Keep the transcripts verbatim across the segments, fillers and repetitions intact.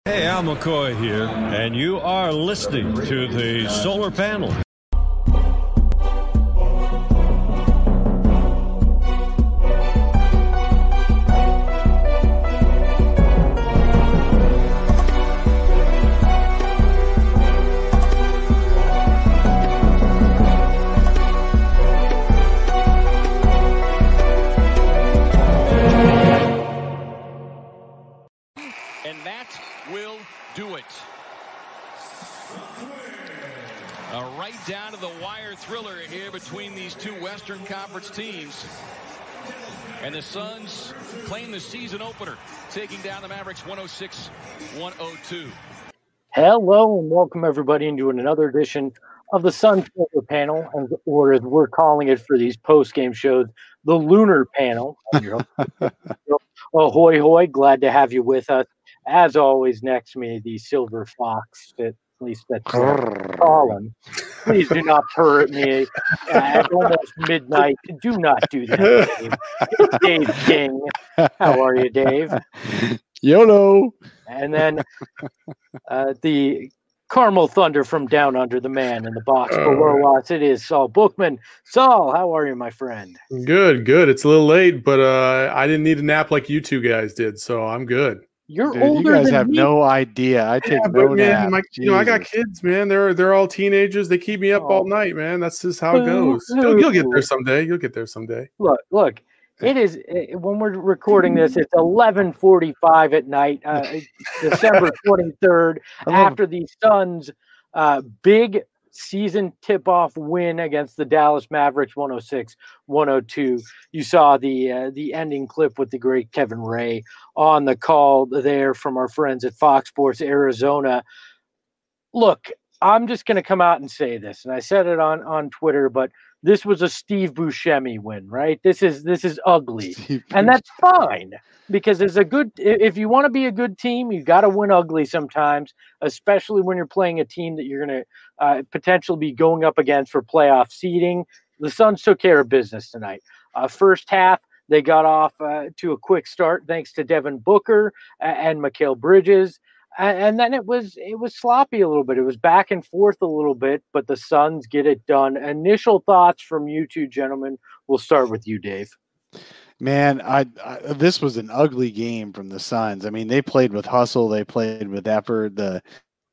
Hey, Al McCoy here, and you are listening to the Solar Panel. Down to the wire thriller here between these two Western Conference teams. And the Suns claim the season opener, taking down the Mavericks one oh six one oh two. Hello and welcome everybody into another edition of the Sun Solar Panel, or as we're calling it for these post-game shows, the Lunar Panel. Ahoy, hoy, glad to have you with us. As always, next to me, the Silver Fox, that, at least that's Colin. Please do not purr at me at almost midnight. Do not do that, Dave. It's Dave King. How are you, Dave? YOLO. And then uh, the Carmel Thunder from down under, the man in the box below us. It is Saul Bookman. Saul, how are you, my friend? Good, good. It's a little late, but uh, I didn't need a nap like you two guys did, so I'm good. You're Dude, older you guys than have me. no idea. I take yeah, no but man, nap. my, you know, I got kids, man. They're they're all teenagers. They keep me up Oh. all night, man. That's just how it goes. You'll, you'll get there someday. You'll get there someday. Look, look. It is uh, when we're recording this. It's eleven forty-five at night, uh, December twenty-third. After the Suns' uh, big season tip-off win against the Dallas Mavericks, one oh six one oh two. You saw the uh, the ending clip with the great Kevin Ray on the call there from our friends at Fox Sports Arizona. Look, I'm just going to come out and say this, and I said it on on Twitter, but this was a Steve Buscemi win, right? This is this is ugly, and that's fine because it's a good. If you want to be a good team, you got to win ugly sometimes, especially when you're playing a team that you're going to uh, potentially be going up against for playoff seeding. The Suns took care of business tonight. Uh, first half, they got off uh, to a quick start thanks to Devin Booker and Mikal Bridges. And then it was it was sloppy a little bit. It was back and forth a little bit, but the Suns get it done. Initial thoughts from you two gentlemen. We'll start with you, Dave. Man, I, I this was an ugly game from the Suns. I mean, they played with hustle. They played with effort. The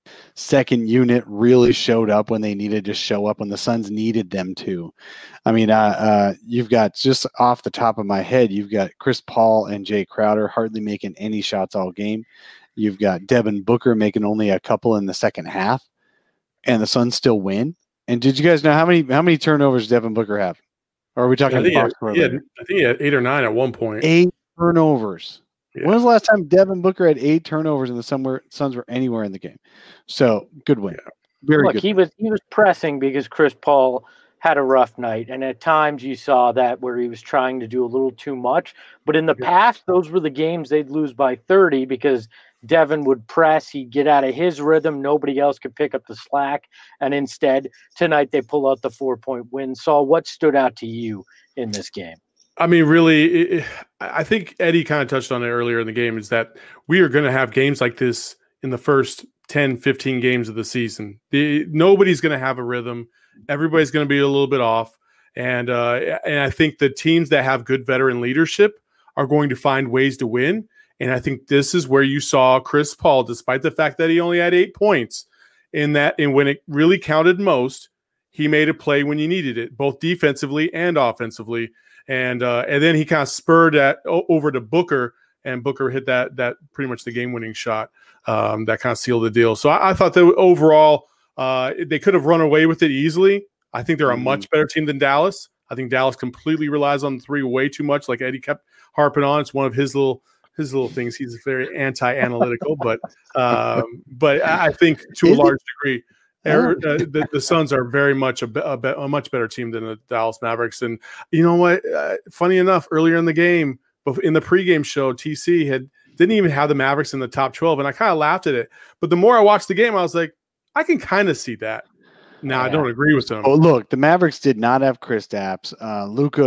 second unit really showed up when they needed to show up, when the Suns needed them to. I mean, uh, uh, you've got, just off the top of my head, you've got Chris Paul and Jay Crowder hardly making any shots all game. You've got Devin Booker making only a couple in the second half, and the Suns still win. And did you guys know how many how many turnovers Devin Booker have? Or are we talking? I think, he had, Fox he had, I think he had eight or nine at one point. Eight turnovers. Yeah. When was the last time Devin Booker had eight turnovers and the somewhere Suns were anywhere in the game? So good win. Yeah. Very Look, good. he was he was pressing because Chris Paul had a rough night, and at times you saw that where he was trying to do a little too much. But in the Yeah. past, those were the games they'd lose by thirty because Devin would press, he'd get out of his rhythm, nobody else could pick up the slack, and instead tonight they pull out the four-point win. Saul, what stood out to you in this game? I mean, really, it, I think Eddie kind of touched on it earlier in the game, is that we are going to have games like this in the first ten, fifteen games of the season. The, nobody's going to have a rhythm. Everybody's going to be a little bit off. And, uh, and I think the teams that have good veteran leadership are going to find ways to win. And I think this is where you saw Chris Paul, despite the fact that he only had eight points, in that, and when it really counted most, he made a play when you needed it, both defensively and offensively. And uh, and then he kind of spurred that over to Booker, and Booker hit that that pretty much the game-winning shot um, that kind of sealed the deal. So I, I thought that overall uh, they could have run away with it easily. I think they're a much better team than Dallas. I think Dallas completely relies on the three way too much, like Eddie kept harping on. It's one of his little his little things. He's very anti-analytical, but um, but I think to a large degree, er, uh, the, the Suns are very much a, a, a much better team than the Dallas Mavericks. And you know what? Uh, funny enough, earlier in the game, in the pregame show, T C had didn't even have the Mavericks in the top twelve, and I kind of laughed at it. But the more I watched the game, I was like, I can kind of see that. Now, yeah. I don't agree with them. Oh, look, the Mavericks did not have Kristaps. Uh, Luka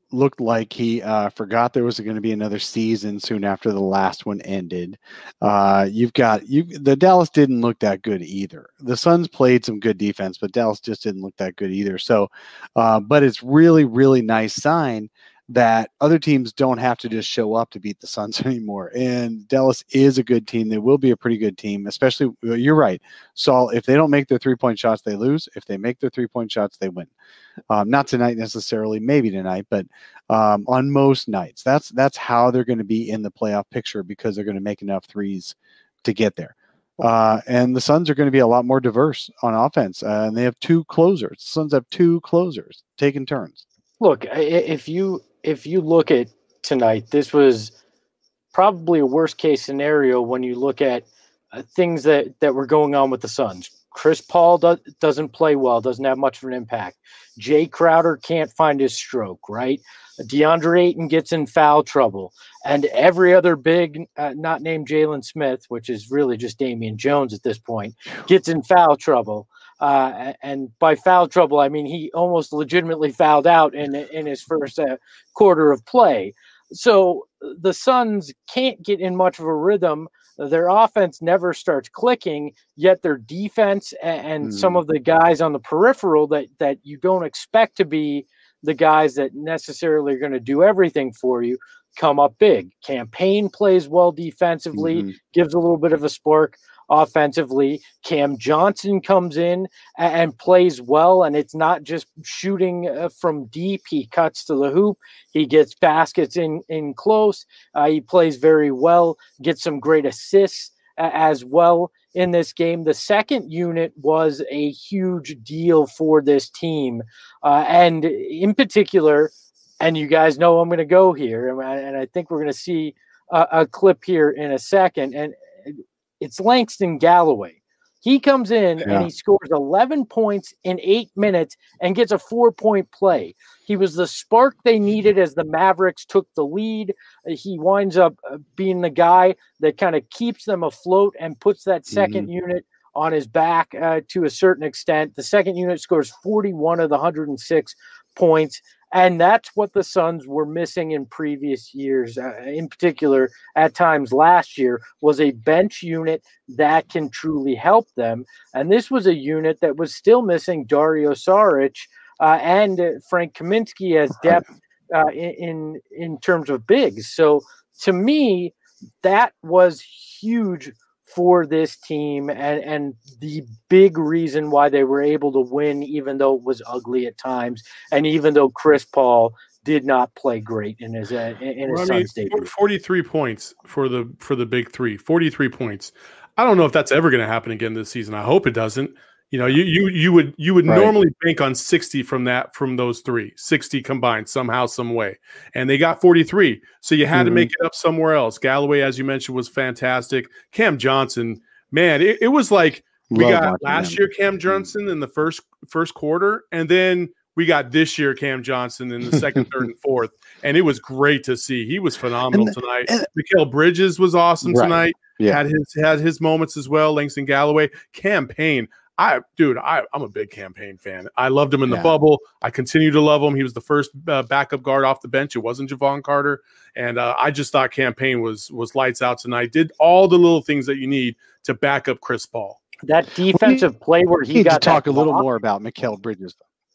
looked like he uh, forgot there was going to be another season soon after the last one ended. Uh, you've got you. The Dallas didn't look that good either. The Suns played some good defense, but Dallas just didn't look that good either. So, uh, but it's really, really nice sign that other teams don't have to just show up to beat the Suns anymore. And Dallas is a good team. They will be a pretty good team, especially, you're right, Saul, if they don't make their three-point shots, they lose. If they make their three-point shots, they win. Um, not tonight necessarily, maybe tonight, but um, on most nights. That's that's how they're going to be in the playoff picture, because they're going to make enough threes to get there. Uh, and the Suns are going to be a lot more diverse on offense, uh, and they have two closers. The Suns have two closers taking turns. Look, if you if you look at tonight, this was probably a worst case scenario when you look at uh, things that, that were going on with the Suns. Chris Paul do, doesn't play well, doesn't have much of an impact. Jay Crowder can't find his stroke, right? DeAndre Ayton gets in foul trouble. And every other big, uh, not named Jalen Smith, which is really just Damian Jones at this point, gets in foul trouble. Uh, and by foul trouble, I mean he almost legitimately fouled out in in his first uh, quarter of play. So the Suns can't get in much of a rhythm. Their offense never starts clicking, yet their defense and, and mm. some of the guys on the peripheral that that you don't expect to be the guys that necessarily are going to do everything for you come up big. Campaign plays well defensively, mm-hmm. gives a little bit of a spark offensively. Cam Johnson comes in and, and plays well, and it's not just shooting uh, from deep. He cuts to the hoop. He gets baskets in, in close. Uh, he plays very well, gets some great assists uh, as well in this game. The second unit was a huge deal for this team. Uh, and in particular, and you guys know I'm going to go here, and I think we're going to see a, a clip here in a second, and it's Langston Galloway. He comes in yeah. and he scores eleven points in eight minutes and gets a four-point play. He was the spark they needed as the Mavericks took the lead. He winds up being the guy that kind of keeps them afloat and puts that second mm-hmm. unit on his back uh, to a certain extent. The second unit scores forty-one of the one hundred six points. And that's what the Suns were missing in previous years. Uh, in particular, at times last year, was a bench unit that can truly help them. And this was a unit that was still missing Dario Saric uh, and uh, Frank Kaminsky as depth uh, in in terms of bigs. So to me, that was huge for this team, and, and the big reason why they were able to win, even though it was ugly at times, and even though Chris Paul did not play great in his uh, in his well, Suns I mean, debut. forty-three points for the for the big three. forty-three points. I don't know if that's ever going to happen again this season. I hope it doesn't. You know, you you you would you would right. normally bank on sixty from that from those three, sixty combined somehow, some way, and they got forty-three. So you had mm-hmm. to make it up somewhere else. Galloway, as you mentioned, was fantastic. Cam Johnson, man, it, it was like we Love got last him. year Cam Johnson in the first first quarter, and then we got this year Cam Johnson in the second, third, and fourth, and it was great to see. He was phenomenal and, tonight. And, Mikal Bridges was awesome right. tonight. Yeah. Had his had his moments as well. Langston Galloway, Cam Payne. I, dude, I, I'm a big Cam Payne fan. I loved him in the yeah. bubble. I continue to love him. He was the first uh, backup guard off the bench. It wasn't Javon Carter, and uh, I just thought Cam Payne was was lights out tonight. Did all the little things that you need to back up Chris Paul. That defensive we play where he need got to talk a little more about Mikal Bridges.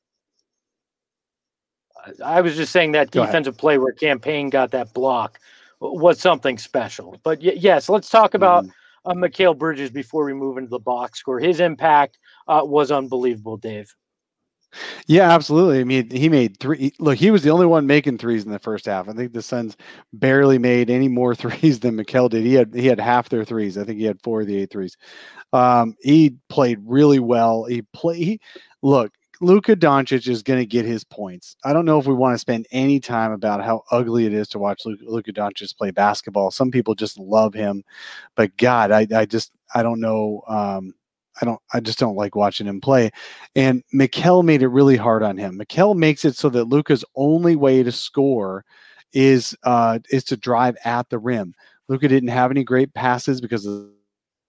I was just saying that defensive play where Cam Payne got that block was something special. But y- yes, let's talk about. Mm. Uh, Mikal Bridges before we move into the box score. His impact uh, was unbelievable, Dave. Yeah, absolutely. I mean, he made three. Look, he was the only one making threes in the first half. I think the Suns barely made any more threes than Mikal did. He had he had half their threes. I think he had four of the eight threes. Um, he played really well. He play. He, look, Luka Doncic is going to get his points. I don't know if we want to spend any time about how ugly it is to watch Luka, Luka Doncic play basketball. Some people just love him, but God, I, I just, I don't know. Um, I don't, I just don't like watching him play. And Mikal made it really hard on him. Mikal makes it so that Luka's only way to score is, uh, is to drive at the rim. Luka didn't have any great passes because of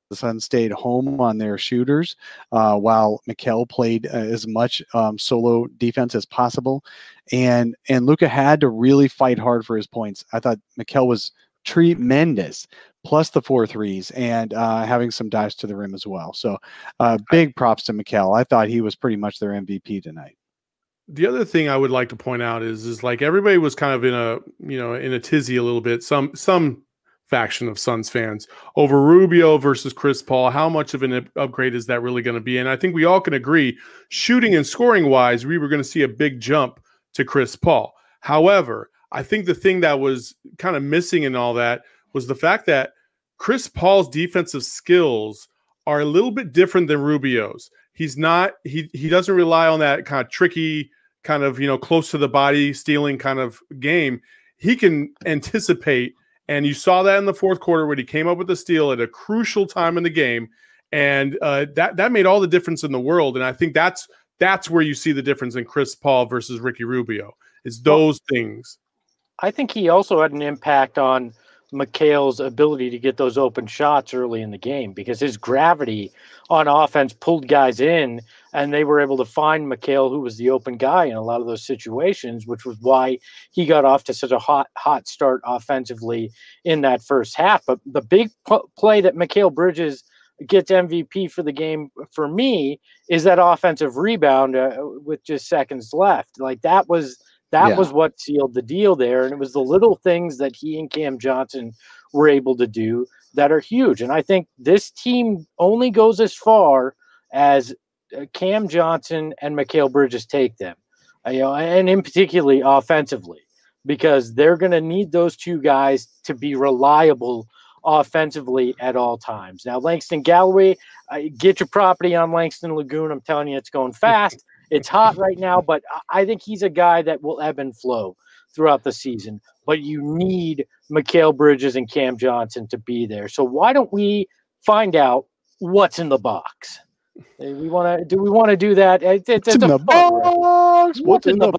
the Suns stayed home on their shooters, uh, while Mikal played uh, as much um, solo defense as possible. And and Luka had to really fight hard for his points. I thought Mikal was tremendous, plus the four threes and uh, having some dives to the rim as well. So uh, big props to Mikal. I thought he was pretty much their M V P tonight. The other thing I would like to point out is, is like everybody was kind of in a, you know, in a tizzy a little bit. Some, some faction of Suns fans over Rubio versus Chris Paul. How much of an upgrade is that really going to be? And I think we all can agree, shooting and scoring wise, we were going to see a big jump to Chris Paul. However, I think the thing that was kind of missing in all that was the fact that Chris Paul's defensive skills are a little bit different than Rubio's. He's not, he he doesn't rely on that kind of tricky, kind of, you know, close to the body stealing kind of game. He can anticipate, and you saw that in the fourth quarter when he came up with the steal at a crucial time in the game, and uh, that that made all the difference in the world. And I think that's that's where you see the difference in Chris Paul versus Ricky Rubio. It's those well, things. I think he also had an impact on Mikal's ability to get those open shots early in the game, because his gravity on offense pulled guys in, and they were able to find Mikal, who was the open guy in a lot of those situations, which was why he got off to such a hot, hot start offensively in that first half. But the big p- play that Mikal Bridges gets M V P for the game for me is that offensive rebound uh, with just seconds left. Like that was That yeah. was what sealed the deal there. And it was the little things that he and Cam Johnson were able to do that are huge. And I think this team only goes as far as Cam Johnson and Mikal Bridges take them, you know, and in particularly offensively, because they're going to need those two guys to be reliable offensively at all times. Now, Langston Galloway, uh, get your property on Langston Lagoon. I'm telling you, it's going fast. It's hot right now, but I think he's a guy that will ebb and flow throughout the season. But you need Mikal Bridges and Cam Johnson to be there. So why don't we find out what's in the box? We want to. Do we want to do that? It, it, it's it's in a the box. What's, what's in, in the, the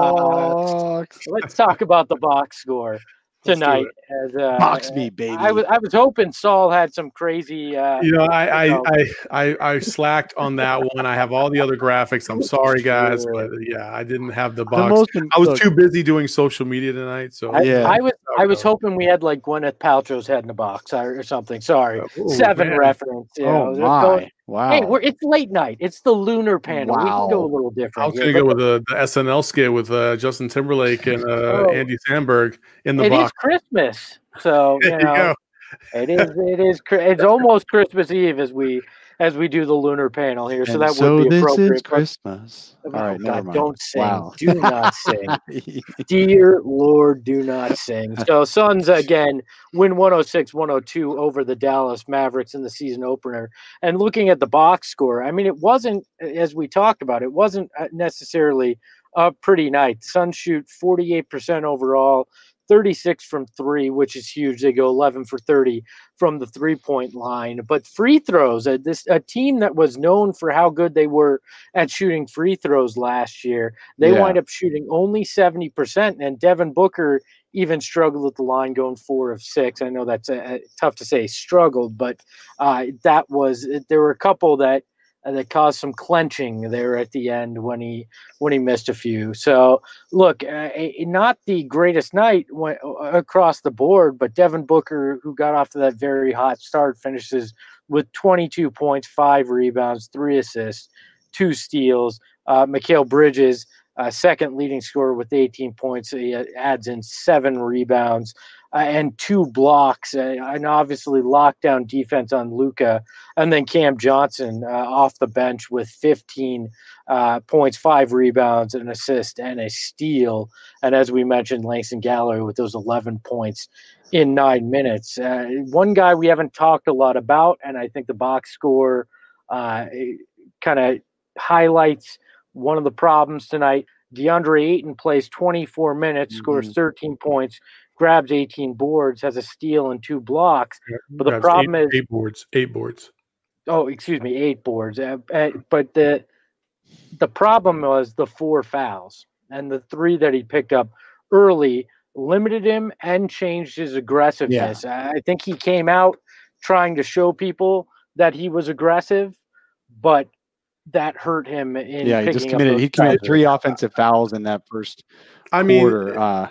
box? box? Let's talk about the box score tonight. As, uh, box me, baby. I was I was hoping Saul had some crazy. Uh, you know, I, I, I I I slacked on that one. I have all the other graphics. I'm sorry, guys, but yeah, I didn't have the box. The I was look, too busy doing social media tonight. So I, yeah, I was I was hoping we had like Gwyneth Paltrow's head in a box or something. Sorry, oh, Seven man. reference. You oh know, my! going, wow. Hey, we're, it's late night. It's the lunar panel. Wow. We can go a little different. I was going to go with the, the S N L skit with uh, Justin Timberlake and uh, oh, Andy Samberg in the it box. It is Christmas, so you there know, you go. it is. It is. It's almost Christmas Eve as we as we do the lunar panel here. So and that so would be appropriate. This is Christmas. But, All right, oh, never God, mind. don't sing. Wow. Do not sing. Dear Lord, do not sing. So Suns again win one oh six one oh two over the Dallas Mavericks in the season opener. And looking at the box score, I mean, it wasn't, as we talked about, it wasn't necessarily a pretty night. The Suns shoot forty-eight percent overall, thirty-six from three, which is huge. They go eleven for thirty from the three-point line. But free throws, a, this, a team that was known for how good they were at shooting free throws last year, they yeah. wind up shooting only seventy percent. And Devin Booker even struggled at the line, going four of six. I know that's a, a, tough to say struggled, but uh, that was – there were a couple that – Uh, that caused some clenching there at the end when he when he missed a few. So, look, uh, a, not the greatest night went, uh, across the board, but Devin Booker, who got off to that very hot start, finishes with twenty-two points, five rebounds, three assists, two steals. Uh, Mikal Bridges, uh, second leading scorer with eighteen points. He adds in seven rebounds. Uh, and two blocks, uh, and obviously lockdown defense on Luka, and then Cam Johnson uh, off the bench with fifteen uh, points, five rebounds, an assist, and a steal. And as we mentioned, Langston Galloway with those eleven points in nine minutes. Uh, one guy we haven't talked a lot about, and I think the box score uh, kind of highlights one of the problems tonight. DeAndre Ayton plays twenty-four minutes, mm-hmm. scores thirteen points, grabs eighteen boards, has a steal and two blocks. Yeah, but the problem eight, is eight boards, eight boards. Oh, excuse me, eight boards. Uh, uh, but the the problem was the four fouls, and the three that he picked up early limited him and changed his aggressiveness. Yeah. I think he came out trying to show people that he was aggressive, but that hurt him in Yeah, he picking just up committed. those He committed fouls. three offensive fouls in that first I mean, quarter. Uh,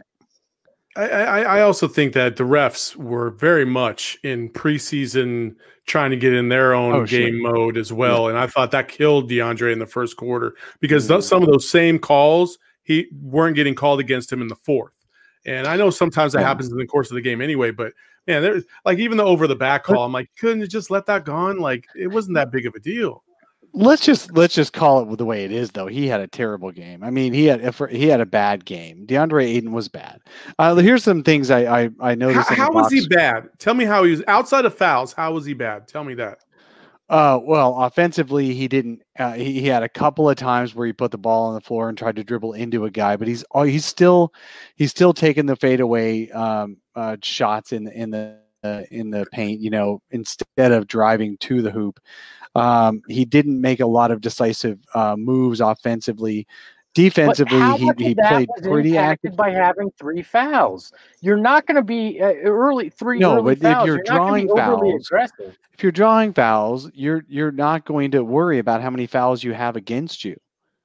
I, I, I also think that the refs were very much in preseason trying to get in their own Oh, game sure. mode as well. And I thought that killed DeAndre in the first quarter because Mm-hmm. those, some of those same calls he weren't getting called against him in the fourth. And I know sometimes that Yeah. happens in the course of the game anyway, but man, there's like even the over the back call, I'm like, couldn't you just let that go on? Like it wasn't that big of a deal. let's just let's just call it the way it is, though. He had a terrible game. I mean, he had if he had a bad game. DeAndre Ayton was bad. Uh, here's some things I I, I noticed. How, in the how was box. he bad? Tell me how he was outside of fouls. How was he bad? Tell me that. Uh, well, offensively, he didn't. Uh, he, he had a couple of times where he put the ball on the floor and tried to dribble into a guy, but he's oh, he's still he's still taking the fadeaway um, uh, shots in the in the uh, in the paint. You know, instead of driving to the hoop, um, he didn't make a lot of decisive uh, moves offensively. Defensively, how he, much he of that played was pretty impacted active. by having three fouls. You're not going to be uh, early three No, early but if fouls. you're You're not gonna be drawing overly fouls- aggressive. If you're drawing fouls, you're you're not going to worry about how many fouls you have against you.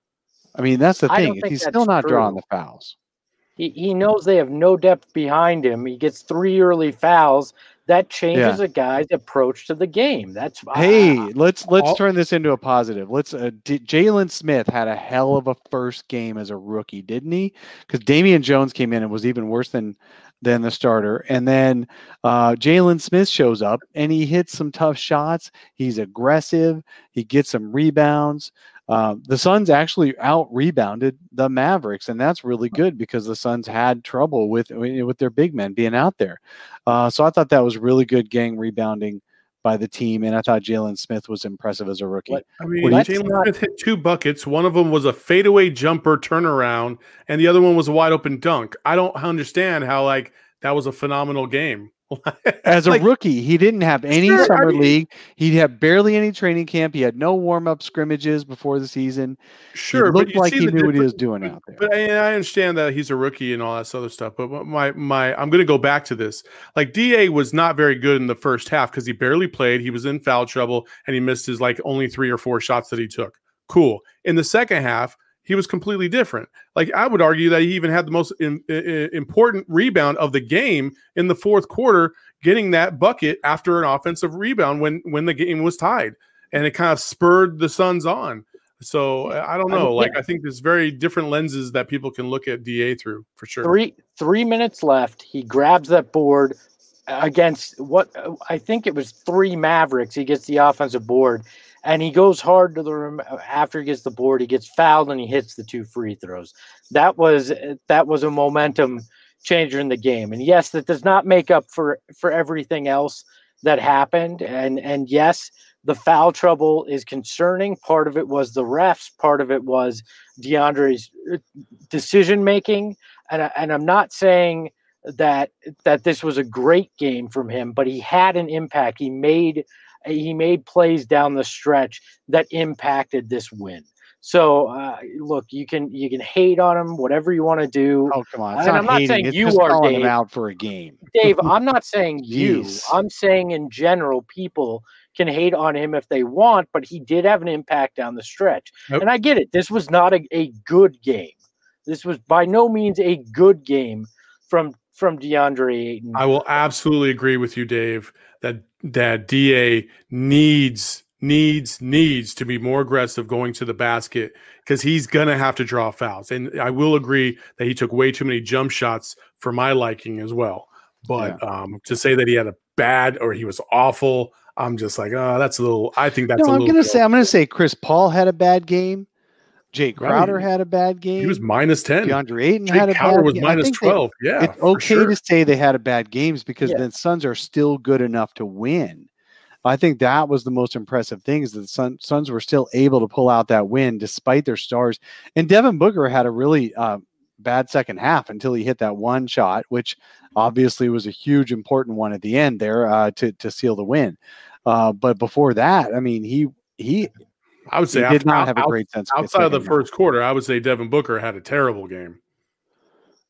I mean, that's the I don't thing. If think he's that's still not drawing true. the fouls. He, he knows they have no depth behind him. He gets three early fouls. That changes a guy's approach to the game. That's Hey, ah, let's let's all- turn this into a positive. Let's. Uh, D- Jalen Smith had a hell of a first game as a rookie, didn't he? Because Damian Jones came in and was even worse than than the starter. And then uh, Jalen Smith shows up and he hits some tough shots. He's aggressive. He gets some rebounds. Uh, the Suns actually out rebounded the Mavericks, and that's really good because the Suns had trouble with with their big men being out there. Uh, so I thought that was really good gang rebounding by the team, and I thought Jalen Smith was impressive as a rookie. What- I mean, Let's Jalen not- Smith hit two buckets. One of them was a fadeaway jumper turnaround, and the other one was a wide open dunk. I don't understand how like that was a phenomenal game. As a Like, rookie, he didn't have any Sure, I summer mean- league. He had barely any training camp. He had no warm up scrimmages before the season. sure, he but looked you like see he the knew what he difference- was doing out there. But I, I understand that he's a rookie and all that other stuff. But my my, I'm going to go back to this. Like D A was not very good in the first half because he barely played. He was in foul trouble and he missed his like only three or four shots that he took. Cool. In the second half, he was completely different. Like I would argue that he even had the most in, in, important rebound of the game in the fourth quarter, getting that bucket after an offensive rebound when when the game was tied, and it kind of spurred the Suns on. So I don't know. Like I think there's very different lenses that people can look at D A through for sure. three three minutes left. He grabs that board against what I think it was three Mavericks. He gets the offensive board, and he goes hard to the rim. After he gets the board, he gets fouled and he hits the two free throws. That was that was a momentum changer in the game. And yes, that does not make up for for everything else that happened. And and yes, the foul trouble is concerning. Part of it was the refs. Part of it was DeAndre's decision making. And I, and I'm not saying that that this was a great game from him, but he had an impact. He made he made plays down the stretch that impacted this win. So uh, look, you can you can hate on him, whatever you want to do. Oh, come on. It's And not I'm not hating. saying It's you just are, calling him Dave. out for a game. Dave, I'm not saying you. Jeez. I'm saying in general, people can hate on him if they want, but he did have an impact down the stretch. Yep. And I get it. This was not a, a good game. This was by no means a good game from from DeAndre Ayton. I will absolutely agree with you, Dave, that that D A needs needs needs to be more aggressive going to the basket because he's gonna have to draw fouls. And I will agree that he took way too many jump shots for my liking as well. But um, to say that he had a bad or he was awful, I'm just like, oh, that's a little. I think that's No, a I'm little. gonna say I'm gonna say Chris Paul had a bad game. Jay Crowder Right. had a bad game. He was minus ten. DeAndre Ayton Jake had a Crowder bad was game. I minus think they- twelve. Yeah, it's for okay sure. to say they had a bad games because Yeah. the Suns are still good enough to win. I think that was the most impressive thing is that the Sun, Suns were still able to pull out that win despite their stars. And Devin Booker had a really uh, bad second half until he hit that one shot, which obviously was a huge important one at the end there uh, to to seal the win. Uh, but before that, I mean, he he, I would he say did after, not have a out- great sense outside of the second half. first quarter. I would say Devin Booker had a terrible game.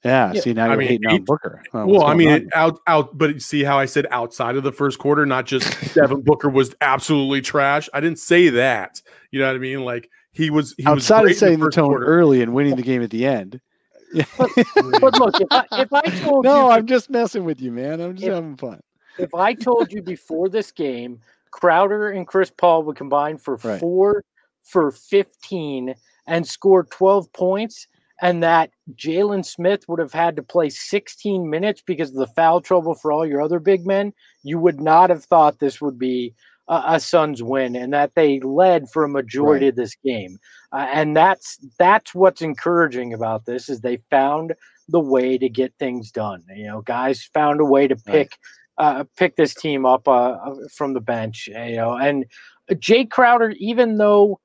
Yeah, Yeah. see, now I you're mean, hating he- on Booker. Oh, well, what's I going mean, on? it, out, out, but see how I said outside of the first quarter, not just Devin Booker was absolutely trash. I didn't say that. You know what I mean? Like he was, he was outside great of setting in the, the first tone quarter. early and winning the game at the end. But, but look, if I, if I told no, you, I'm just messing with you, man. I'm just If- having fun. if I told you before this game, Crowder and Chris Paul would combine for Right. four for fifteen and score twelve points, and that Jalen Smith would have had to play sixteen minutes because of the foul trouble for all your other big men, you would not have thought this would be a, a Suns win, and that they led for a majority Right. of this game. Uh, and that's that's what's encouraging about this is they found the way to get things done. You know, guys found a way to pick uh, pick this team up uh, from the bench. You know, and Jay Crowder, even though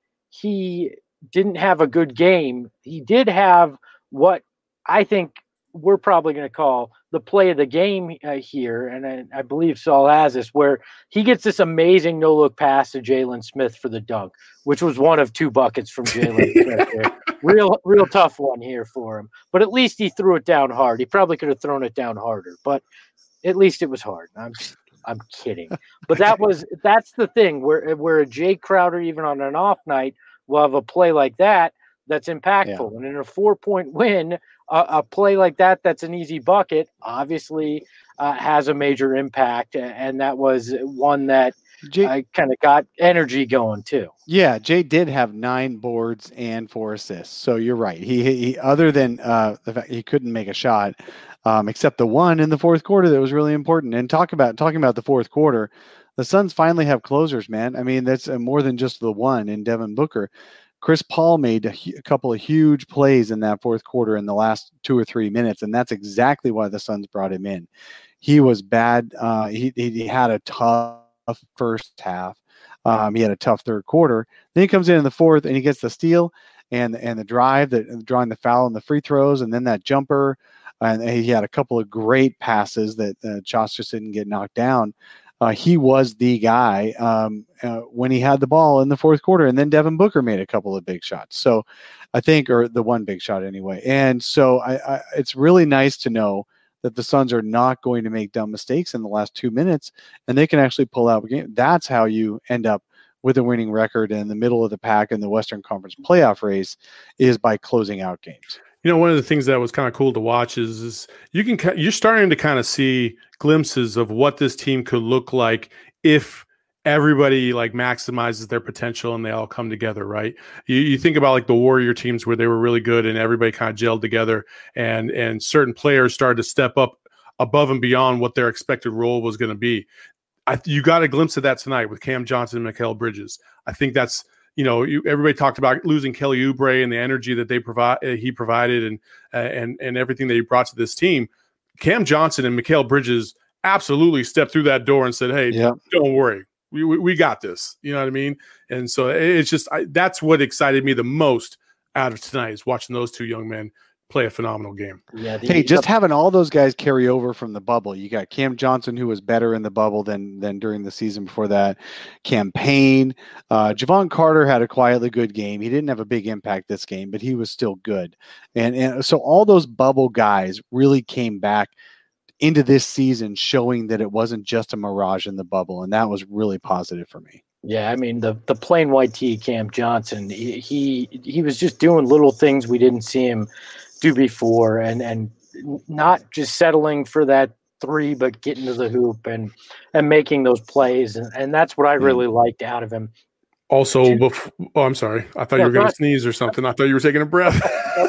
he didn't have a good game, he did have what I think we're probably going to call the play of the game uh, here, and I, I believe Saul has this, where he gets this amazing no-look pass to Jalen Smith for the dunk, which was one of two buckets from Jalen Smith here. Real, real tough one here for him, but at least he threw it down hard. He probably could have thrown it down harder, but at least it was hard. I'm, I'm kidding, but that was that's the thing where where a Jay Crowder, even on an off night, will have a play like that that's impactful, Yeah. and in a four-point win, uh, a play like that that's an easy bucket obviously uh, has a major impact, and that was one that Jay, I kind of got energy going too. yeah, Jay did have nine boards and four assists. So you're right. He, he other than uh, the fact he couldn't make a shot, um, except the one in the fourth quarter that was really important. And talk about talking about the fourth quarter, the Suns finally have closers, man. I mean, that's uh, more than just the one in Devin Booker. Chris Paul made a, hu- a couple of huge plays in that fourth quarter in the last two or three minutes, and that's exactly why the Suns brought him in. He was bad. Uh, he he had a tough first half. Um, he had a tough third quarter. Then he comes in in the fourth and he gets the steal and and the drive, that drawing the foul and the free throws, and then that jumper. And he had a couple of great passes that uh, Josh just didn't get knocked down. Uh, he was the guy um, uh, when he had the ball in the fourth quarter. And then Devin Booker made a couple of big shots. So I think, or the one big shot anyway. And so I, I, it's really nice to know that the Suns are not going to make dumb mistakes in the last two minutes, and they can actually pull out a game. That's how you end up with a winning record in the middle of the pack in the Western Conference playoff race, is by closing out games. You know, one of the things that was kind of cool to watch is, is you can you're starting to kind of see glimpses of what this team could look like if everybody like maximizes their potential and they all come together, right? You, you think about like the Warrior teams where they were really good and everybody kind of gelled together, and and certain players started to step up above and beyond what their expected role was going to be. I, you got a glimpse of that tonight with Cam Johnson and Mikal Bridges. I think that's, you know, you, everybody talked about losing Kelly Oubre and the energy that they provide, uh, he provided, and uh, and and everything that he brought to this team. Cam Johnson and Mikal Bridges absolutely stepped through that door and said, "Hey, Yep. don't worry, we, we we got this." You know what I mean? And so it's just I, that's what excited me the most out of tonight, is watching those two young men play a phenomenal game. Yeah, the, Hey, just the, having all those guys carry over from the bubble. You got Cam Johnson, who was better in the bubble than than during the season before that. Cam Payne, uh, Javon Carter had a quietly good game. He didn't have a big impact this game, but he was still good. And and so all those bubble guys really came back into this season, showing that it wasn't just a mirage in the bubble, and that was really positive for me. Yeah, I mean the the plain white tee Cam Johnson, he, he he was just doing little things we didn't see him do before, and and not just settling for that three, but getting to the hoop and and making those plays, and, and that's what I really yeah. liked out of him. Also, before, oh, I'm sorry, I thought yeah, you were going to sneeze or something. I thought you were taking a breath.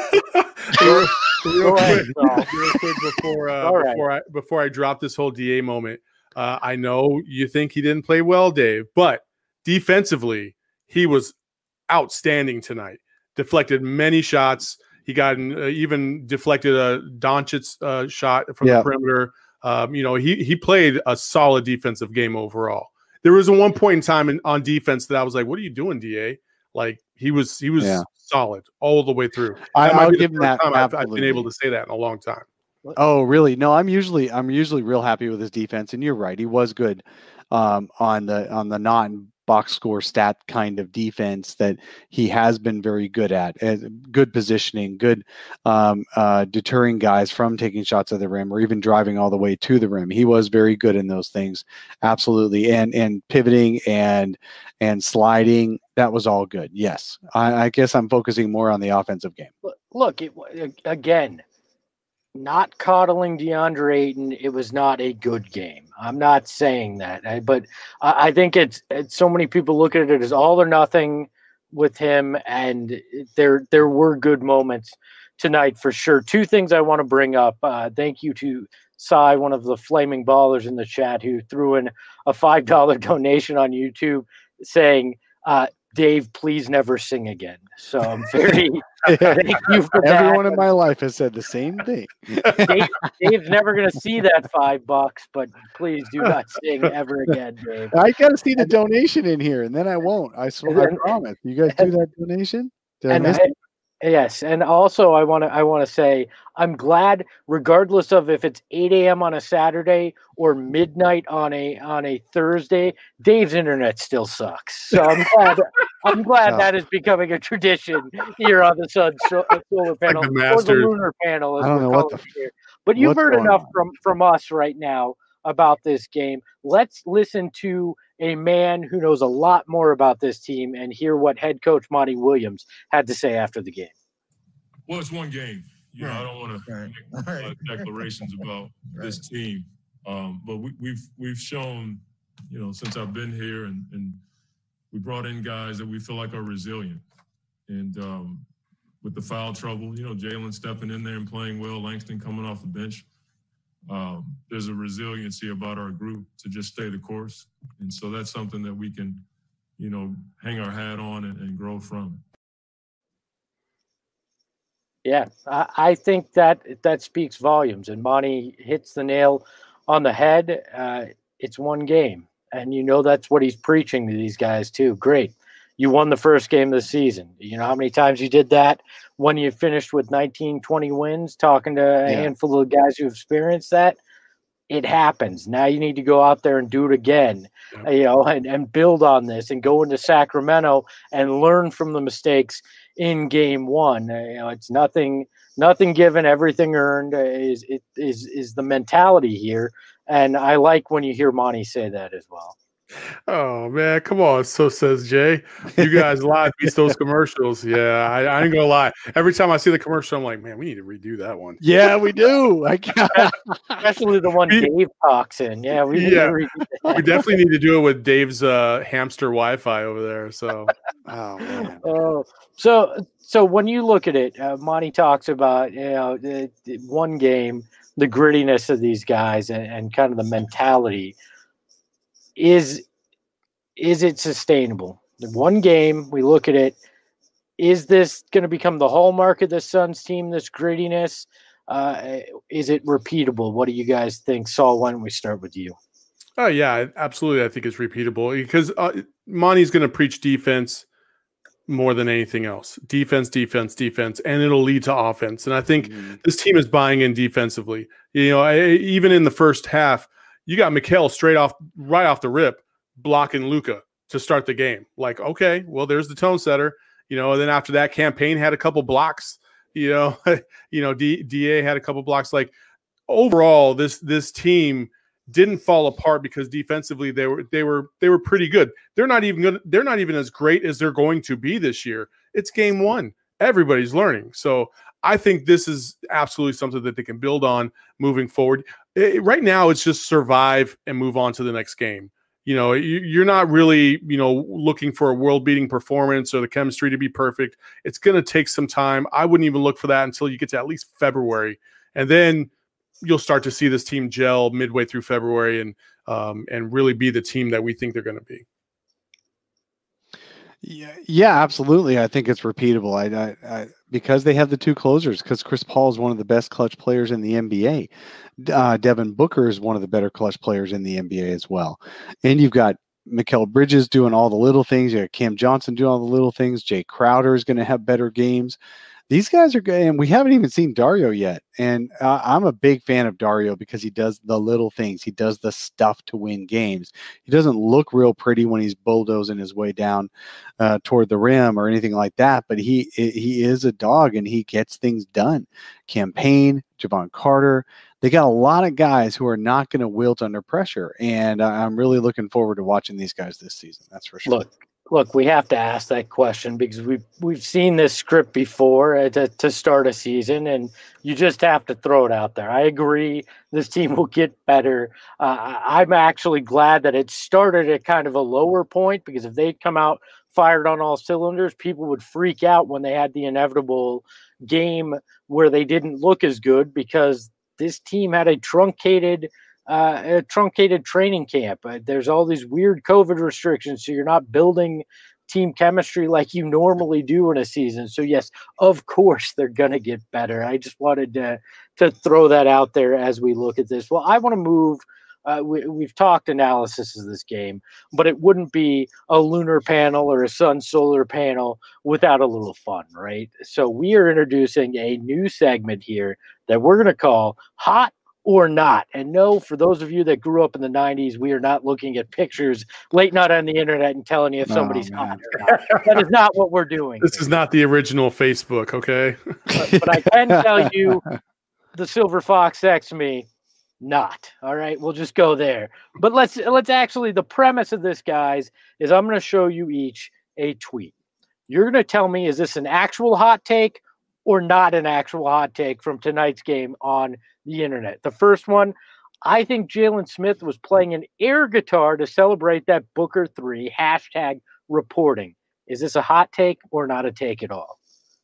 real, real, quick, real quick before uh, right. before I before I drop this whole D A moment, uh, I know you think he didn't play well, Dave, but defensively he was outstanding tonight. Deflected many shots. He got uh, even deflected a Doncic uh, shot from yeah. the perimeter. Um, you know, he he played a solid defensive game overall. There was a one point in time in, on defense that I was like, "What are you doing, D A?" Like he was he was yeah. solid all the way through. I, I'll give him that. I've, I've been able to say that in a long time. Oh, really? No, I'm usually I'm usually real happy with his defense, and you're right, he was good um, on the on the non box score stat kind of defense that he has been very good at. Good positioning, good um, uh, deterring guys from taking shots at the rim or even driving all the way to the rim. He was very good in those things, absolutely. And and pivoting and and sliding, that was all good. Yes, I, I guess I'm focusing more on the offensive game. Look, it, again, not coddling DeAndre Ayton, it was not a good game. I'm not saying that, but I think it's, it's so many people look at it as all or nothing with him, and there there were good moments tonight for sure. Two things I want to bring up. Uh, thank you to Cy, one of the flaming ballers in the chat, who threw in a five dollar donation on YouTube saying, uh, Dave, please never sing again. So I'm very thank you for that. Everyone in my life has said the same thing. Dave, Dave's never going to see that five bucks, but please do not sing ever again, Dave. I got to see the donation in here, and then I won't. I swear, I promise. You guys do that donation? Did and I miss I, yes, and also I want to I want to say I'm glad, regardless of if it's eight a.m. on a Saturday or midnight on a on a Thursday, Dave's internet still sucks. So I'm glad I'm glad No. that is becoming a tradition here on the Sun so, uh, solar panel the or the Masters. lunar panel, as I don't we're know what calling the it here. But you've what's heard going enough on? from from us right now about this game. Let's listen to a man who knows a lot more about this team and hear what head coach Monty Williams had to say after the game. Well, it's one game. You know, Right. I don't want to Right. make uh, Right. declarations about Right. this team, um, but we, we've we've shown, you know, since I've been here, and, and we brought in guys that we feel like are resilient. And um, with the foul trouble, you know, Jalen stepping in there and playing well, Langston coming off the bench. Um, there's a resiliency about our group to just stay the course, and so that's something that we can, you know, hang our hat on and, and grow from. Yeah, I, I think that that speaks volumes, and Monty hits the nail on the head. Uh, it's one game, and you know that's what he's preaching to these guys too. Great, you won the first game of the season. You know how many times you did that when you finished with nineteen, twenty wins, talking to a Yeah. handful of guys who experienced that. It happens. Now you need to go out there and do it again, Yep. uh, you know, and, and build on this and go into Sacramento and learn from the mistakes in game one. Uh, you know, it's nothing, nothing given, everything earned uh, is, it is, is the mentality here. And I like when you hear Monty say that as well. Oh man, come on. So says Jay. You guys live beats those commercials. Yeah, I, I ain't gonna lie. Every time I see the commercial, I'm like, man, we need to redo that one. Yeah, we do. I got Especially the one Dave talks in. Yeah, we, need Yeah. to read that. We definitely need to do it with Dave's uh, hamster Wi-Fi over there. So Oh man. Oh, so so when you look at it, uh, Monty talks about, you know, the, the one game, the grittiness of these guys, and, and kind of the mentality. Is is it sustainable? The one game, we look at it. Is this going to become the hallmark of the Suns team? This grittiness, uh, is it repeatable? What do you guys think? Saul, why don't we start with you? Oh yeah, absolutely. I think it's repeatable because uh, Monty's going to preach defense more than anything else. Defense, defense, defense, and it'll lead to offense. And I think Mhm. this team is buying in defensively. You know, I, even in the first half, you got Mikal straight off, right off the rip, blocking Luka to start the game. Like, okay, well, there's the tone setter. You know, and then after that, Campaign had a couple blocks. You know, you know, D, DA had a couple blocks. Like overall, this this team didn't fall apart because defensively they were they were they were pretty good. They're not even good. They're not even as great as they're going to be this year. It's game one. Everybody's learning. So I think this is absolutely something that they can build on moving forward. It, right now, it's just survive and move on to the next game. You know, you, you're not really, you know, looking for a world-beating performance or the chemistry to be perfect. It's going to take some time. I wouldn't even look for that until you get to at least February, and then you'll start to see this team gel midway through February and um, and really be the team that we think they're going to be. Yeah, yeah, absolutely. I think it's repeatable. I, I, I because they have the two closers. Because Chris Paul is one of the best clutch players in the N B A. Uh, Devin Booker is one of the better clutch players in the N B A as well. And you've got Mikal Bridges doing all the little things. You got Cam Johnson doing all the little things. Jay Crowder is going to have better games. these guys are good, and we haven't even seen Dario yet. And uh, I'm a big fan of Dario because he does the little things. He does the stuff to win games. He doesn't look real pretty when he's bulldozing his way down uh, toward the rim or anything like that, but he he is a dog, and he gets things done. Campaign, Javon Carter, they got a lot of guys who are not going to wilt under pressure, and I'm really looking forward to watching these guys this season. That's for sure. Look, look, we have to ask that question because we've we've seen this script before uh, to, to start a season, and you just have to throw it out there. I agree, this team will get better. Uh, I'm actually glad that it started at kind of a lower point, because if they'd come out fired on all cylinders, people would freak out when they had the inevitable game where they didn't look as good, because this team had a truncated uh, a truncated training camp. Uh, there's all these weird COVID restrictions, so you're not building team chemistry like you normally do in a season. So yes, of course they're going to get better. I just wanted to, to throw that out there as we look at this. Well, I want to move. Uh, we, we've talked analysis of this game, but it wouldn't be a lunar panel or a sun solar panel without a little fun, right? So we are introducing a new segment here that we're going to call Hot or Not. And no, for those of you that grew up in the nineties, we are not looking at pictures late night on the internet and telling you if somebody's oh, hot or not. That is not what we're doing. This here. is not the original Facebook, okay? But, but I can tell you, the Silver Fox texts me, not. All right, we'll just go there. But let's let's actually, the premise of this, guys, is I'm going to show you each a tweet. You're going to tell me, is this an actual hot take or not an actual hot take from tonight's game on the internet? The first one, I think Jalen Smith was playing an air guitar to celebrate that Booker three, hashtag reporting. Is this a hot take or not a take at all?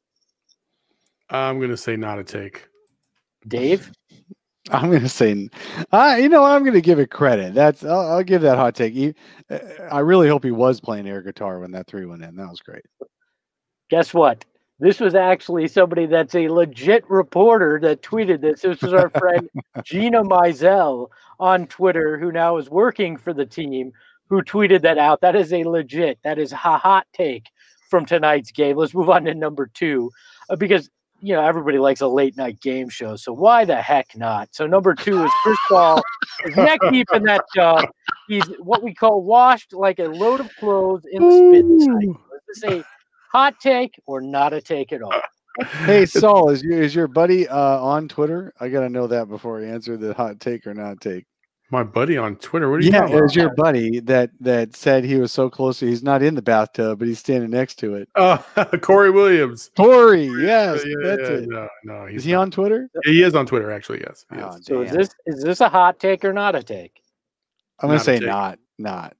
I'm going to say not a take. Dave? I'm going to say, uh, you know, I'm going to give it credit. That's I'll, I'll give that hot take. He, I really hope he was playing air guitar when that three went in. That was great. Guess what? This was actually somebody that's a legit reporter that tweeted this. This was our friend Gina Mizell on Twitter, who now is working for the team, who tweeted that out. That is a legit, that is a hot take from tonight's game. Let's move on to number two, uh, because you know, everybody likes a late night game show. So why the heck not? So number two is Chris Paul is neck deep in that tub. He's what we call washed like a load of clothes in the spin cycle. Is this a hot take or not a take at all? Hey, Saul, is your, is your buddy uh, on Twitter? I got to know that before I answer the hot take or not take. My buddy on Twitter. What are you yeah, talking about? it was your buddy that that said he was so close. He's not in the bathtub, but he's standing next to it. Oh, Corey Williams. Corey, yes, yeah, that's yeah, it. No, no, he's is he not. on Twitter? Yeah, he is on Twitter, actually. Yes. Oh, so is this is this a hot take or not a take? I'm gonna say not, not.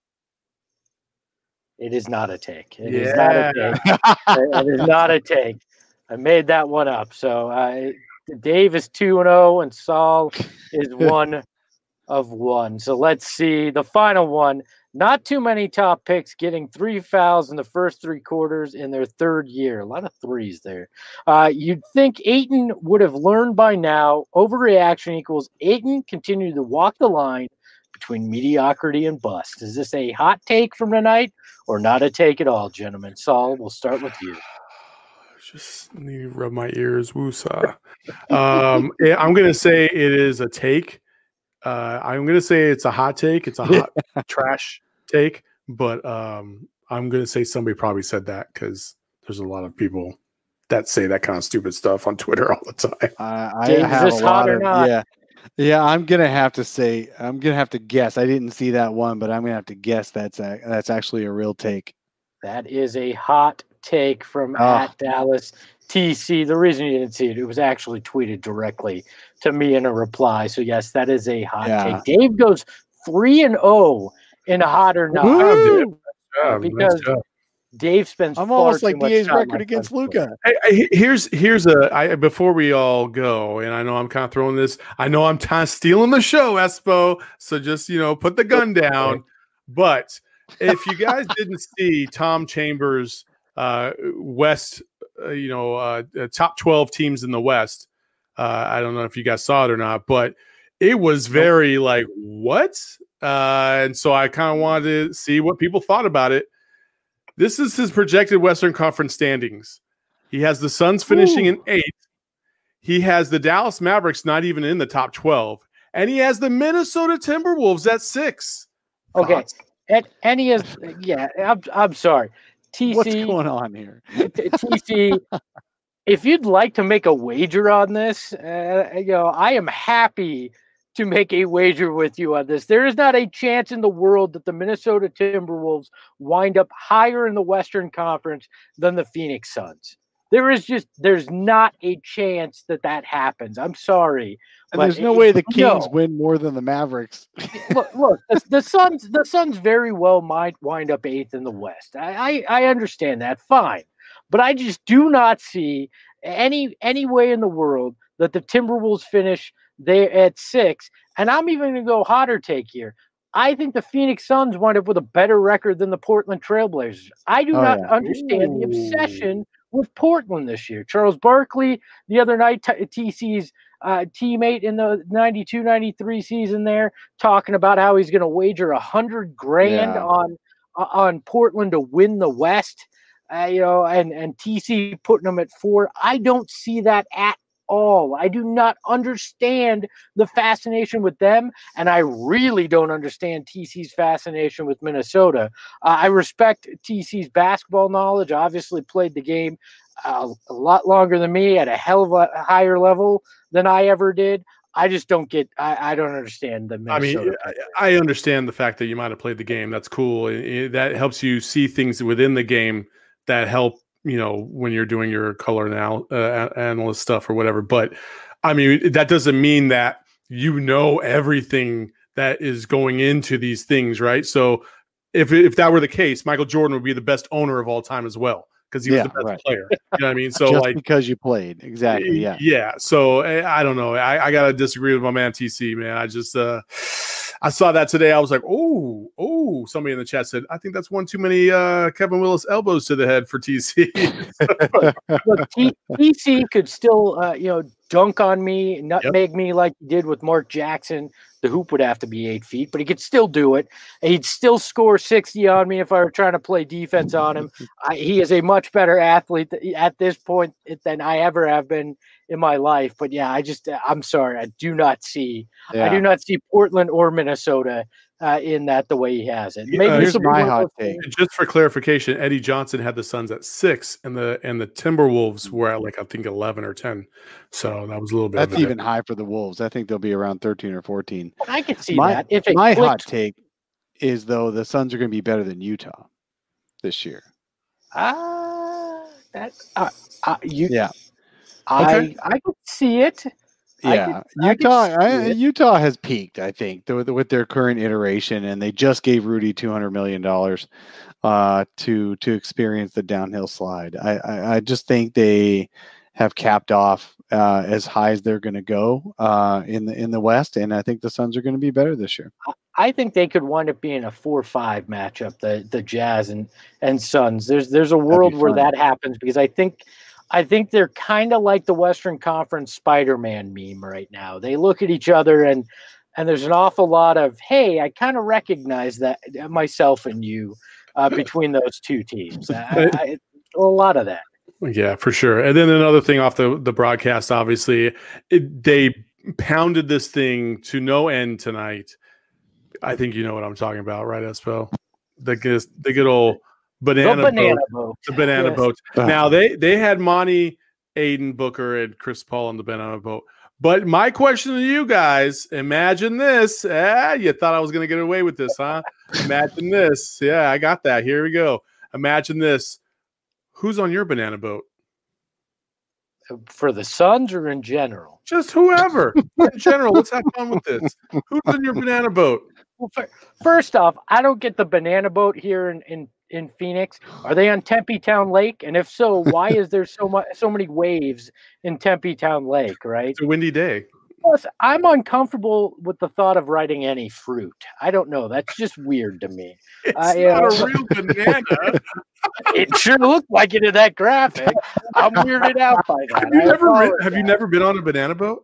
It is not a take. It yeah. is not a take. It is not a take. I made that one up. So uh, Dave is two and zero, and Saul is one of one. So let's see the final one. Not too many top picks getting three fouls in the first three quarters in their third year. A lot of threes there. Uh, you'd think Ayton would have learned by now. Overreaction equals Ayton continued to walk the line between mediocrity and bust. Is this a hot take from tonight or not a take at all, gentlemen? Saul, we'll start with you. Just need to rub my ears. Woosah. um, I'm going to say it is a take. Uh, I'm going to say it's a hot take. It's a hot trash take, but um, I'm going to say somebody probably said that because there's a lot of people that say that kind of stupid stuff on Twitter all the time. Uh, I Dave, have is this a lot hot or of, not? yeah, yeah. I'm going to have to say, I'm going to have to guess. I didn't see that one, but I'm going to have to guess that's a, that's actually a real take. That is a hot take from Oh. at Dallas T C. The reason you didn't see it, it was actually tweeted directly to me in a reply. So yes, that is a hot Yeah. take. Dave goes three and zero in a hot or not. Woo! Yeah, because nice job. Dave spends I'm far almost too like much D A's time record on against Facebook. Luca. Hey, hey, here's here's a I before we all go, and I know I'm kind of throwing this. I know I'm kind of stealing the show, Espo. So just you know, put the gun down. But if you guys didn't see Tom Chambers' uh, West, uh, you know, uh, top twelve teams in the West, uh, I don't know if you guys saw it or not, but it was very like what, uh, and so I kind of wanted to see what people thought about it. This is his projected Western Conference standings. He has the Suns finishing Ooh. in eighth. He has the Dallas Mavericks not even in the top twelve. And he has the Minnesota Timberwolves at six. Okay. Thoughts? And, and he is, yeah, I'm, I'm sorry. T C, What's going on here? T C, if you'd like to make a wager on this, uh, you know, I am happy to make a wager with you on this. There is not a chance in the world that the Minnesota Timberwolves wind up higher in the Western Conference than the Phoenix Suns. There is just, there's not a chance that that happens. I'm sorry. And there's no way the Kings no. win more than the Mavericks. look, look the, the Suns, the Suns very well might wind up eighth in the West. I, I, I understand that. Fine. But I just do not see any, any way in the world that the Timberwolves finish there at six. And I'm even going to go hotter take here. I think the Phoenix Suns wind up with a better record than the Portland Trailblazers. I do Oh, not yeah. understand Ooh. the obsession with Portland this year. Charles Barkley, the other night, T C's uh, teammate in the ninety-two ninety-three season there, talking about how he's going to wager a hundred grand Yeah. on uh, on Portland to win the West. Uh, you know, and and T C putting them at four. I don't see that at all. I do not understand the fascination with them, and I really don't understand T C's fascination with Minnesota. Uh, I respect T C's basketball knowledge. Obviously, played the game uh, a lot longer than me at a hell of a higher level than I ever did. I just don't get. I, I don't understand the Minnesota. I mean, I, I understand the fact that you might have played the game. That's cool. It- it- that helps you see things within the game that help, you know, when you're doing your color anal- uh, analyst stuff or whatever. But I mean, that doesn't mean that you know everything that is going into these things, right? So if if that were the case, Michael Jordan would be the best owner of all time as well, because he was Yeah, the best right. player. You know what I mean? So Just like, because you played. Exactly. Yeah. yeah. So eh, I don't know. I, I gotta disagree with my man T C, man. I just uh I saw that today. I was like, oh, oh, somebody in the chat said, I think that's one too many uh Kevin Willis elbows to the head for T C. Look, T- TC could still, uh, you know, dunk on me, nutmeg me like he did with Mark Jackson. The hoop would have to be eight feet, but he could still do it. He'd still score sixty on me if I were trying to play defense on him. I, he is a much better athlete at this point than I ever have been in my life. But yeah, I just, I'm sorry. I do not see, Yeah. I do not see Portland or Minnesota uh, in that the way he has it. Maybe Uh, this here's will be my one of hot those take. things- Just for clarification, Eddie Johnson had the Suns at six, and the and the Timberwolves were at like I think eleven or ten. So that was a little bit. That's of a even high for the Wolves. I think they'll be around thirteen or fourteen. I could see My, that. If it my hot clicked, take is, though, the Suns are going to be better than Utah this year. ah, that, uh, uh, you, Yeah. I, Okay. I could see it. I Yeah, could- I could Utah. see I, it. Utah has peaked, I think, with, with their current iteration, and they just gave Rudy two hundred million dollars uh, to to experience the downhill slide. I, I, I just think they have capped off uh, as high as they're going to go uh, in the in the West, and I think the Suns are going to be better this year. I think they could wind up being a four five matchup, the the Jazz and and Suns. There's there's a world where fun. that happens because I think I think they're kind of like the Western Conference Spider-Man meme right now. They look at each other and and there's an awful lot of, hey, I kind of recognize that myself and you uh, between those two teams. I, I, a lot of that. Yeah, for sure. And then another thing off the, the broadcast, obviously, it, they pounded this thing to no end tonight. I think you know what I'm talking about, right, Espo? The good, the good old banana, the banana boat. boat. The banana Yes. boat. Ugh. Now, they, they had Monty, Aiden, Booker, and Chris Paul on the banana boat. But my question to you guys, imagine this. Ah, you thought I was going to get away with this, huh? Imagine this. Yeah, I got that. Here we go. Imagine this. Who's on your banana boat? For the Suns or in general? Just whoever. In general, let's have fun with this. Who's in your banana boat? Well, fir- first off, I don't get the banana boat here in, in, in Phoenix. Are they on Tempe Town Lake? And if so, why is there so much so many waves in Tempe Town Lake? Right. It's a windy day. Plus, I'm uncomfortable with the thought of riding any fruit. I don't know. That's just weird to me. It's Uh, not yeah. a real banana. It sure looked like it in that graphic. I'm weirded out by that. Have you I never been, apologize. have you never been on a banana boat?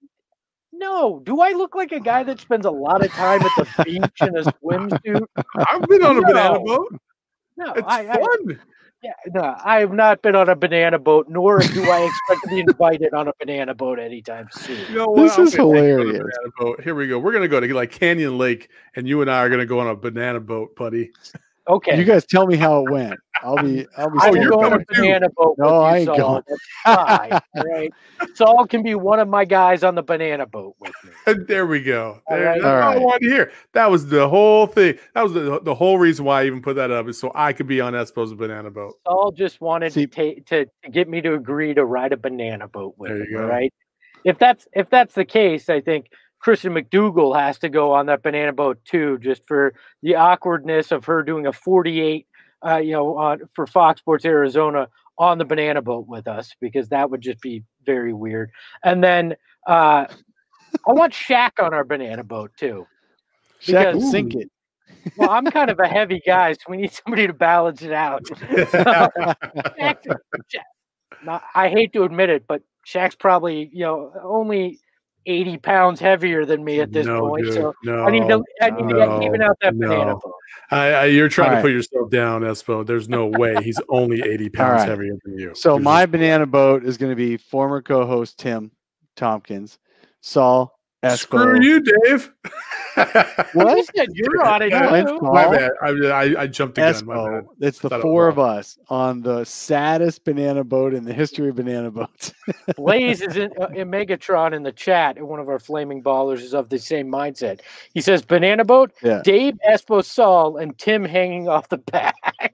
No. Do I look like a guy that spends a lot of time at the beach in a swimsuit? I've been on a banana No. boat. No, It's I, I fun. yeah, no, I have not been on a banana boat, nor do I expect to be invited on a banana boat anytime soon. You know This what? is I'm gonna take you on a hilarious. banana boat. Here we go. We're gonna go to like Canyon Lake, and you and I are gonna go on a banana boat, buddy. Okay. You guys tell me how it went. I'll be. I'll be. I Oh, will you're go on a going too. banana boat No, with you, I ain't Saul. going. That's fine. All right. Saul can be one of my guys on the banana boat with me. And there we go. All There, right. That's all I All right. wanted to hear. That was the whole thing. That was the, the whole reason why I even put that up is so I could be on Espo's banana boat. Saul just wanted See- to, ta- to to get me to agree to ride a banana boat with There him. you All go. right. If that's if that's the case, I think Kristen McDougal has to go on that banana boat too, just for the awkwardness of her doing a forty-eight, uh, you know, on for Fox Sports Arizona on the banana boat with us, because that would just be very weird. And then uh, I want Shaq on our banana boat too. Shaq will Because- sink it. Well, I'm kind of a heavy guy, so we need somebody to balance it out. So, Shaq, Shaq, not, I hate to admit it, but Shaq's probably, you know, only eighty pounds heavier than me at this no, point. dude, So no, I need to, I need to no, get even out that banana no. boat. I, I, you're trying All to right. put yourself down, Espo. There's no way he's only eighty pounds right. heavier than you. So There's my just- banana boat is going to be former co-host Tim Tompkins, Saul Espo. Screw you, Dave. What? You said you're on it. My too. My bad. I, I, I jumped the gun. My bad. Espo. It's the Thought it four was of us on the saddest banana boat in the history of banana boats. Blaze is in, uh, in Megatron in the chat, and one of our flaming ballers is of the same mindset. He says, banana boat, Yeah. Dave, Espo, Saul, and Tim hanging off the back.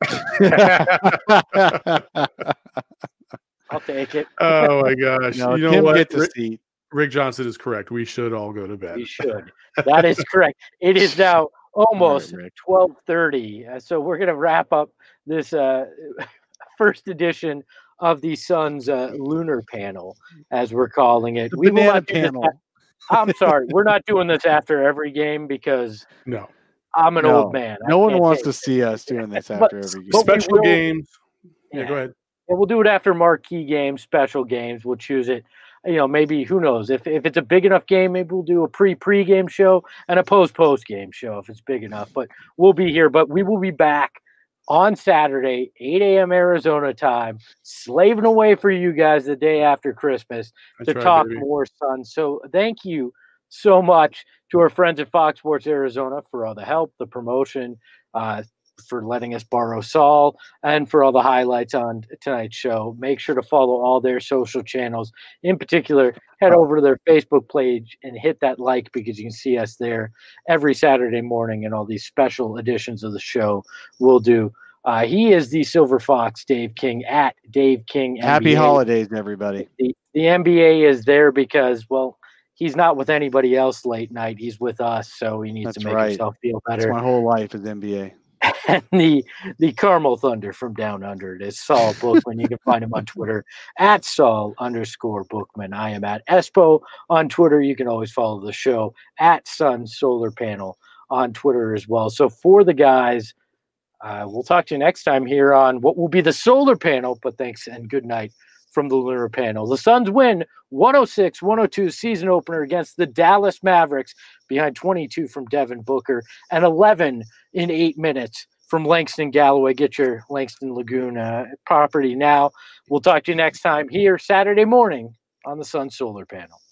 I'll take it. Oh my gosh! no, you know Tim what? gets a Rick, seat. Rick Johnson is correct. We should all go to bed. You should. That is correct. It is now almost Rick. twelve thirty. Uh, so we're going to wrap up this uh, first edition of the Sun's uh, lunar panel, as we're calling it. The We will banana not do this panel. a- I'm sorry. We're not doing this after every game because No I'm an No, old man. I No one can't wants take to see us doing this But- after every game. but we special will- games. Yeah, Yeah. go ahead. And we'll do it after marquee games, special games. We'll choose it. You know, maybe who knows if if it's a big enough game, maybe we'll do a pre pre game show and a post post game show if it's big enough. But we'll be here. But we will be back on Saturday, eight a.m. Arizona time, slaving away for you guys the day after Christmas That's to right, talk baby. more Sun. So thank you so much to our friends at Fox Sports Arizona for all the help, the promotion, uh, for letting us borrow Saul, and for all the highlights on tonight's show. Make sure to follow all their social channels. In particular, head over to their Facebook page and hit that like, because you can see us there every Saturday morning, and all these special editions of the show we'll do. Uh, he is the Silver Fox, Dave King, at Dave King. Happy N B A. holidays, everybody. The, the N B A is there because, well, he's not with anybody else late night. He's with us, so he needs That's to make right. himself feel That's better. my whole life is N B A. And the the Carmel Thunder from down under it is Saul Bookman. You can find him on Twitter at Saul underscore Bookman. I am at Espo on Twitter. You can always follow the show at Sun Solar Panel on Twitter as well. So for the guys, uh, we'll talk to you next time here on what will be the solar panel. But thanks and good night from the lunar panel. The Suns win one oh six one oh two season opener against the Dallas Mavericks behind twenty-two from Devin Booker and eleven in eight minutes from Langston Galloway. Get your Langston Lagoon uh, property now. We'll talk to you next time here Saturday morning on the Sun Solar Panel.